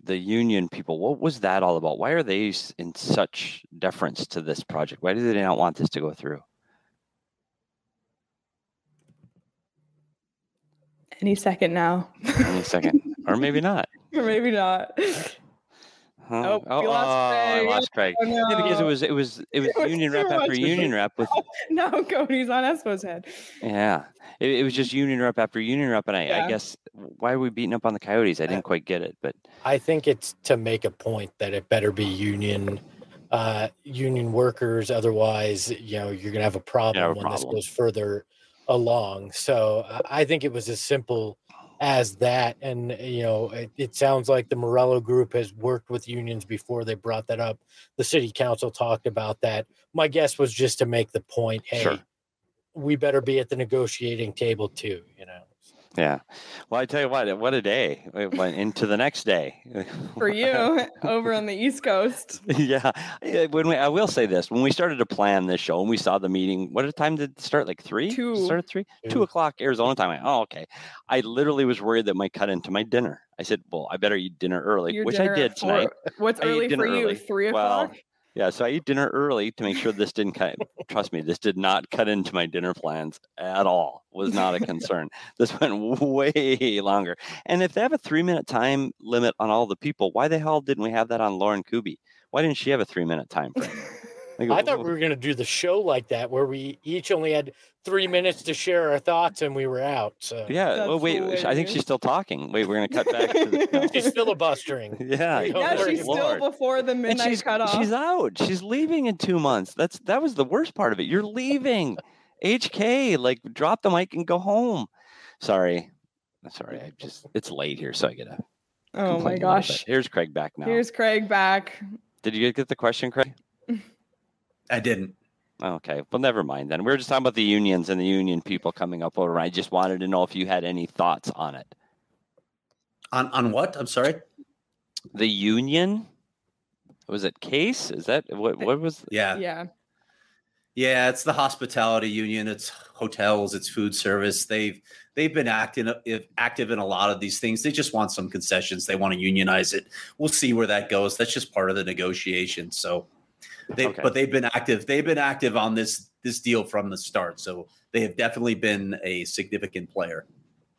the union people, what was that all about? Why are they in such deference to this project? Why do they not want this to go through? Any second now. Any second. Or maybe not. Or maybe not. Huh? Oh, we lost oh, Craig. I lost Craig. Oh, no. Yeah, because it was it was it was, It was union too rep after much. union rep with Now Cody's on Espo's head. yeah. It, it was just union rep after union rep, and I, Yeah. I guess why are we beating up on the Coyotes? I didn't quite get it, but I think it's to make a point that it better be union uh, union workers. Otherwise, you know, you're going to have a problem have a when problem. this goes further along. So uh, I think it was as simple as that. And, you know, it, it sounds like the Morello group has worked with unions before they brought that up. The city council talked about that. My guess was just to make the point, hey, Sure. we better be at the negotiating table too, you know. yeah. Well, I tell you what, what a day. It went into the next day. For you over on the East Coast. yeah. Yeah, When we, I will say this: when we started to plan this show and we saw the meeting, what time did it start? Like three? Two. Start at three? Two. Two o'clock Arizona time. I, oh, okay. I literally was worried that might cut into my dinner. I said, "Well, I better eat dinner early," Your which dinner I did at four- tonight. What's I ate early dinner for you? early. Three Well, o'clock? Yeah, so I eat dinner early to make sure this didn't cut. Trust me, this did not cut into my dinner plans at all. Was not a concern. This went way longer. And if they have a three-minute time limit on all the people, why the hell didn't we have that on Lauren Kuby? Why didn't she have a three-minute time frame? Like, I thought we were going to do the show like that, where we each only had three minutes to share our thoughts and we were out. So yeah. That's Well, wait. I think hilarious. she's still talking. Wait, we're going to cut back. To the, no. she's filibustering. Yeah. Yeah, Yeah, Lord, she's still Lord. before the And midnight she's cutoff. she's out. She's leaving in two months. That's that was the worst part of it. You're leaving. H K, like drop the mic and go home. Sorry. Sorry. I just it's late here, so I gotta oh my complain a little gosh. bit. Here's Craig back now. Here's Craig back. Did you get the question, Craig? I didn't. Okay. Well, never mind then. We were just talking about the unions and the union people coming up over. I just wanted to know if you had any thoughts on it. On on what? I'm sorry. The union? Was it Case? Is that what what was Yeah. Yeah. Yeah, it's the hospitality union. It's hotels. It's food service. They've they've been acting if active in a lot of these things. They just want some concessions. They want to unionize it. We'll see where that goes. That's just part of the negotiation. So, they Okay. but they've been active. They've been active on this this deal from the start. So they have definitely been a significant player.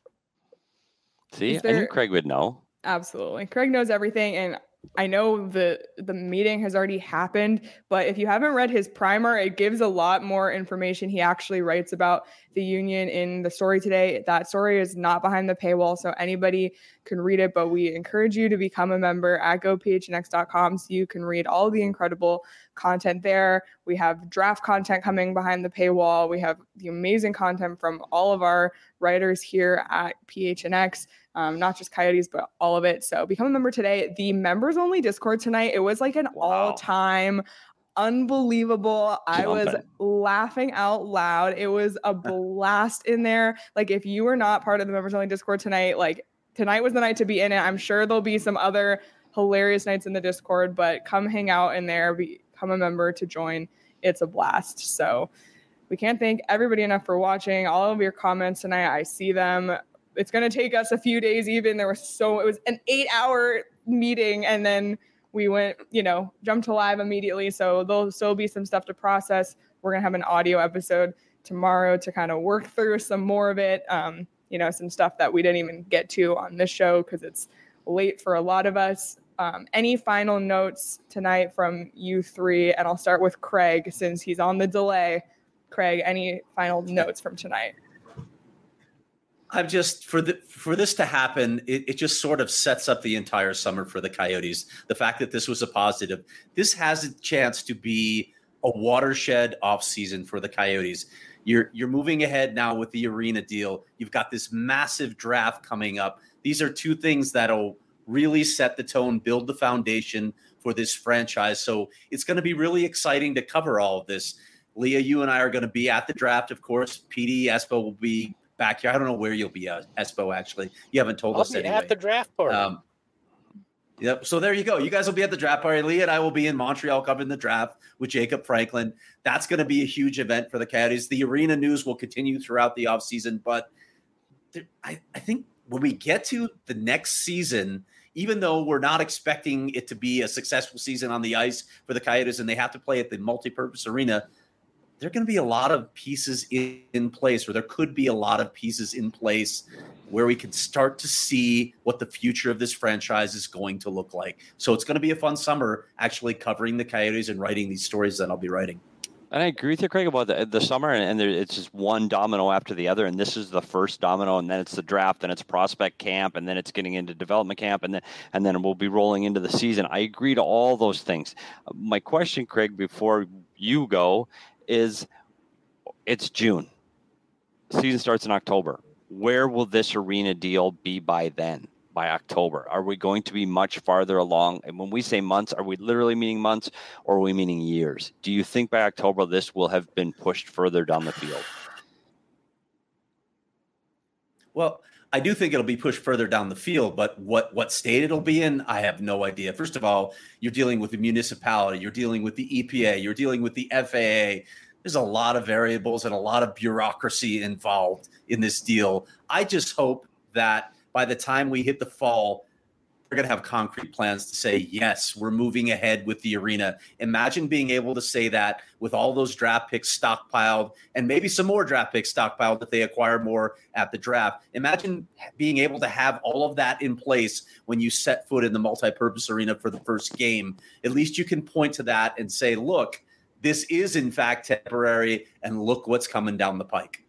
See, Is I knew there- Craig would know. Absolutely. Craig knows everything, and I know the the meeting has already happened, but if you haven't read his primer, it gives a lot more information. He actually writes about the union in the story today. That story is not behind the paywall, so anybody can read it, but we encourage you to become a member at go p h n x dot com so you can read all the incredible content there. We have draft content coming behind the paywall. We have the amazing content from all of our writers here at P H N X. Um, not just Coyotes, but all of it. So become a member today. The members only Discord tonight, it was like an Wow. all-time unbelievable. I was Jumping. laughing out loud. It was a blast in there. Like if you were not part of the members only Discord tonight, like tonight was the night to be in it. I'm sure there'll be some other hilarious nights in the Discord, but come hang out in there, become a member to join. It's a blast. So we can't thank everybody enough for watching. All of your comments tonight, I see them. It's going to take us a few days even. There was so, it was an eight hour meeting and then we went, you know, jumped to live immediately. So there'll still be some stuff to process. We're going to have an audio episode tomorrow to kind of work through some more of it. Um, you know, some stuff that we didn't even get to on this show because it's late for a lot of us. Um, any final notes tonight from you three? And I'll start with Craig since he's on the delay. Craig, any final notes from tonight? I've just for the for this to happen, it, it just sort of sets up the entire summer for the Coyotes. The fact that this was a positive, this has a chance to be a watershed offseason for the Coyotes. You're you're moving ahead now with the arena deal. You've got this massive draft coming up. These are two things that'll really set the tone, build the foundation for this franchise. So it's going to be really exciting to cover all of this. Leah, you and I are going to be at the draft, of course. P D Espo will be back here. I don't know where you'll be, uh, Espo, actually. You haven't told I'll us be anyway. at the draft party. Um, yep. So there you go. You guys will be at the draft party. Leah and I will be in Montreal covering the draft with Jacob Franklin. That's going to be a huge event for the Coyotes. The arena news will continue throughout the offseason, but there, I, I think when we get to the next season, even though we're not expecting it to be a successful season on the ice for the Coyotes and they have to play at the multi-purpose arena, there are going to be a lot of pieces in, in place, or there could be a lot of pieces in place where we can start to see what the future of this franchise is going to look like. So it's going to be a fun summer actually covering the Coyotes and writing these stories that I'll be writing. And I agree with you, Craig, about the, the summer, and, and there, it's just one domino after the other, and this is the first domino, and then it's the draft, and it's prospect camp, and then it's getting into development camp, and then and then we'll be rolling into the season. I agree to all those things. My question, Craig, before you go, is it's June. Season starts in October. Where will this arena deal be by then? By October? Are we going to be much farther along? And when we say months, are we literally meaning months or are we meaning years? Do you think by October this will have been pushed further down the field? Well, I do think it'll be pushed further down the field, but what, what state it'll be in, I have no idea. First of all, you're dealing with the municipality, you're dealing with the E P A, you're dealing with the F A A. There's a lot of variables and a lot of bureaucracy involved in this deal. I just hope that by the time we hit the fall, we're going to have concrete plans to say, yes, we're moving ahead with the arena. Imagine being able to say that with all those draft picks stockpiled and maybe some more draft picks stockpiled if they acquire more at the draft. Imagine being able to have all of that in place when you set foot in the multi-purpose arena for the first game. At least you can point to that and say, look, this is in fact temporary, and look what's coming down the pike.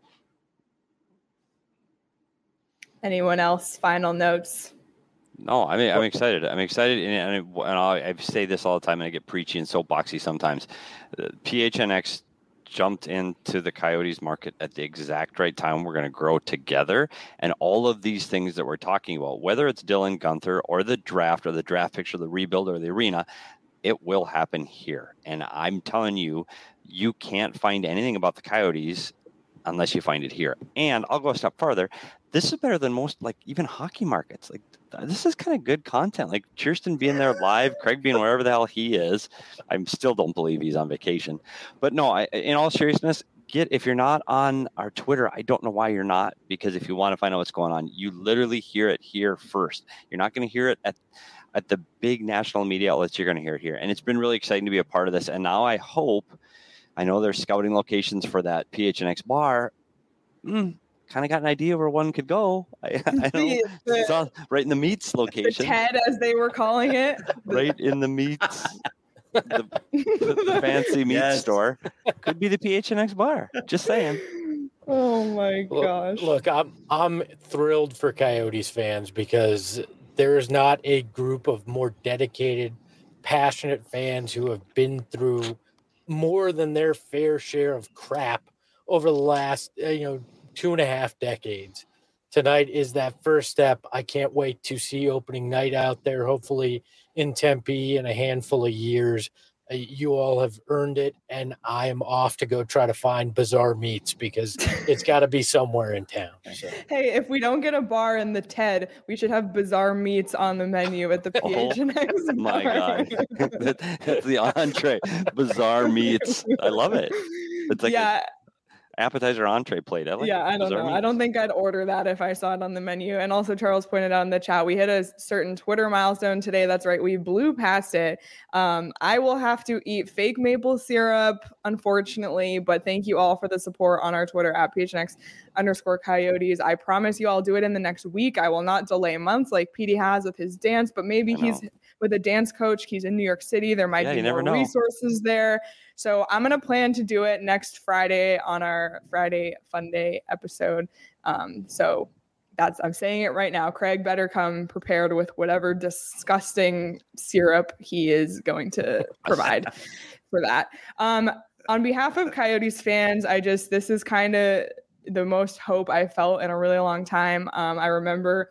Anyone else? Final notes? No, I mean, I'm excited. I'm excited, and, and, and I, I say this all the time, and I get preachy and soapboxy sometimes. Uh, P H N X jumped into the Coyotes market at the exact right time. We're going to grow together, and all of these things that we're talking about, whether it's Dylan Guenther or the draft or the draft picks or the rebuild or the arena, it will happen here. And I'm telling you, you can't find anything about the Coyotes unless you find it here. And I'll go a step farther. This is better than most, like, even hockey markets. Like, this is kind of good content. Like, Kirsten being there live, Craig being wherever the hell he is. I still don't believe he's on vacation. But no, I, in all seriousness, get if you're not on our Twitter, I don't know why you're not, because if you want to find out what's going on, you literally hear it here first. You're not going to hear it at at the big national media outlets. You're going to hear it here. And it's been really exciting to be a part of this. And now I hope, I know there's scouting locations for that P H N X bar. Mm, kind of got an idea where one could go. I, I know it's all right in the meats location. The Ted, as they were calling it. Right in the meats, the, the, the fancy meat yes. store. Could be the P H N X bar. Just saying. Oh my gosh. Look, look, I'm I'm thrilled for Coyotes fans because there's not a group of more dedicated, passionate fans who have been through more than their fair share of crap over the last, you know, two and a half decades. Tonight is that first step. I can't wait to see opening night out there, hopefully in Tempe in a handful of years. Uh, you all have earned it, and I am off to go try to find Bizarre Meats because it's got to be somewhere in town. So. Hey, if we don't get a bar in the Ted, we should have Bizarre Meats on the menu at the P H N X oh, my God. That's the entree. Bizarre Meats. I love it. It's like yeah. a appetizer entree plate. I like yeah, it. I don't Bizarre know. Meats. I don't think I'd order that if I saw it on the menu. And also, Charles pointed out in the chat, we hit a certain Twitter milestone today. That's right. We blew past it. Um, I will have to eat fake maple syrup, unfortunately, but thank you all for the support on our Twitter at P H N X underscore Coyotes. I promise you I'll do it in the next week. I will not delay months like Petey has with his dance, but maybe he's with a dance coach. He's in New York City. There might yeah, be more resources there. So I'm going to plan to do it next Friday on our Friday Fun Day episode. Um, so that's, I'm saying it right now. Craig better come prepared with whatever disgusting syrup he is going to provide for that. Um, on behalf of Coyotes fans, I just, this is kind of the most hope I felt in a really long time. Um, I remember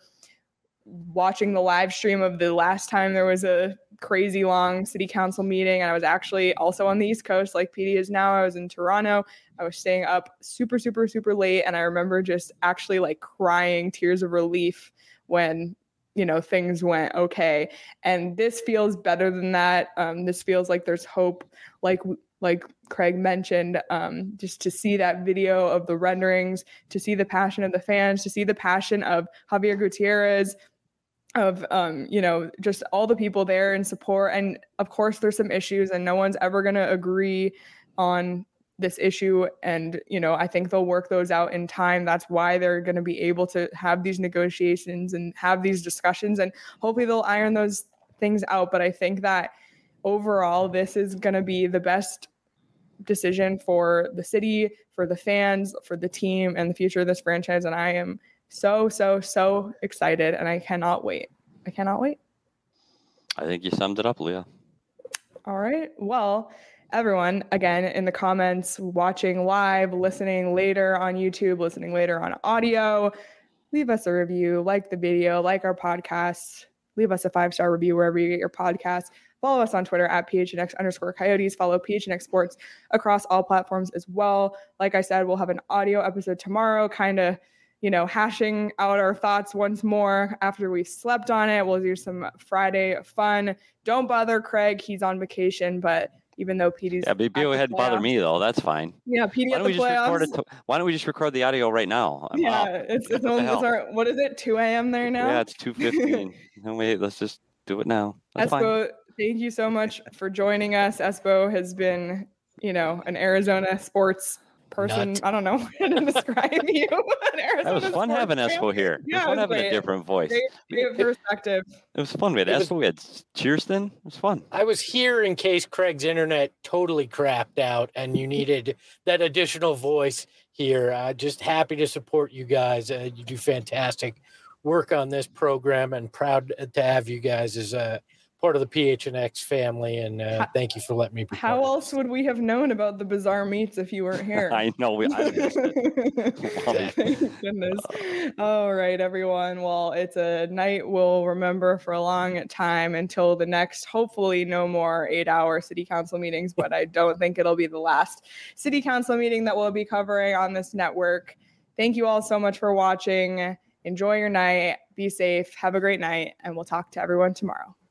watching the live stream of the last time there was a crazy long city council meeting, and I was actually also on the East Coast like P D is now. I was in Toronto. I was staying up super super super late, and I remember just actually like crying tears of relief when, you know, things went okay. And this feels better than that. Um, this feels like there's hope, like like Craig mentioned, um, just to see that video of the renderings, to see the passion of the fans, to see the passion of Javier Gutierrez. of, um, you know, just all the people there in support. And of course, there's some issues and no one's ever going to agree on this issue. And, you know, I think they'll work those out in time. That's why they're going to be able to have these negotiations and have these discussions, and hopefully they'll iron those things out. But I think that overall, this is going to be the best decision for the city, for the fans, for the team, and the future of this franchise. And I am so, so, so excited, and I cannot wait. I cannot wait. I think you summed it up, Leah. All right. Well, everyone, again, in the comments, watching live, listening later on YouTube, listening later on audio, leave us a review, like the video, like our podcast, leave us a five-star review wherever you get your podcasts. Follow us on Twitter at P H N X underscore Coyotes. Follow P H N X Sports across all platforms as well. Like I said, we'll have an audio episode tomorrow, kind of, you know, hashing out our thoughts once more after we slept on it. We'll do some Friday fun. Don't bother Craig. He's on vacation, but even though P D's yeah, but go ahead and bother me though. That's fine. Yeah, P D at the playoffs. To, why don't we just record the audio right now? I'm yeah, up. it's it's only our, what is it? two a.m. there now. Yeah, it's two fifteen. No wait, let's just do it now. That's Espo, fine. Thank you so much for joining us. Espo has been, you know, an Arizona sports person. Nut. I don't know how to describe you. That was fun having Espo here. Yeah, it was fun having great. a different voice. Great, great perspective. It was fun. We had Espo, we had Cheerston. It was fun. I was here in case Craig's internet totally crapped out and you needed that additional voice here. Uh, just happy to support you guys. Uh, you do fantastic work on this program, and proud to have you guys as a part of the P H N X family, and uh, how, thank you for letting me be How else would we have known about the bizarre meats if you weren't here? I know. We, I missed it. Thank goodness. All right, everyone. Well, it's a night we'll remember for a long time until the next, hopefully no more eight-hour city council meetings, but I don't think it'll be the last city council meeting that we'll be covering on this network. Thank you all so much for watching. Enjoy your night. Be safe. Have a great night, and we'll talk to everyone tomorrow.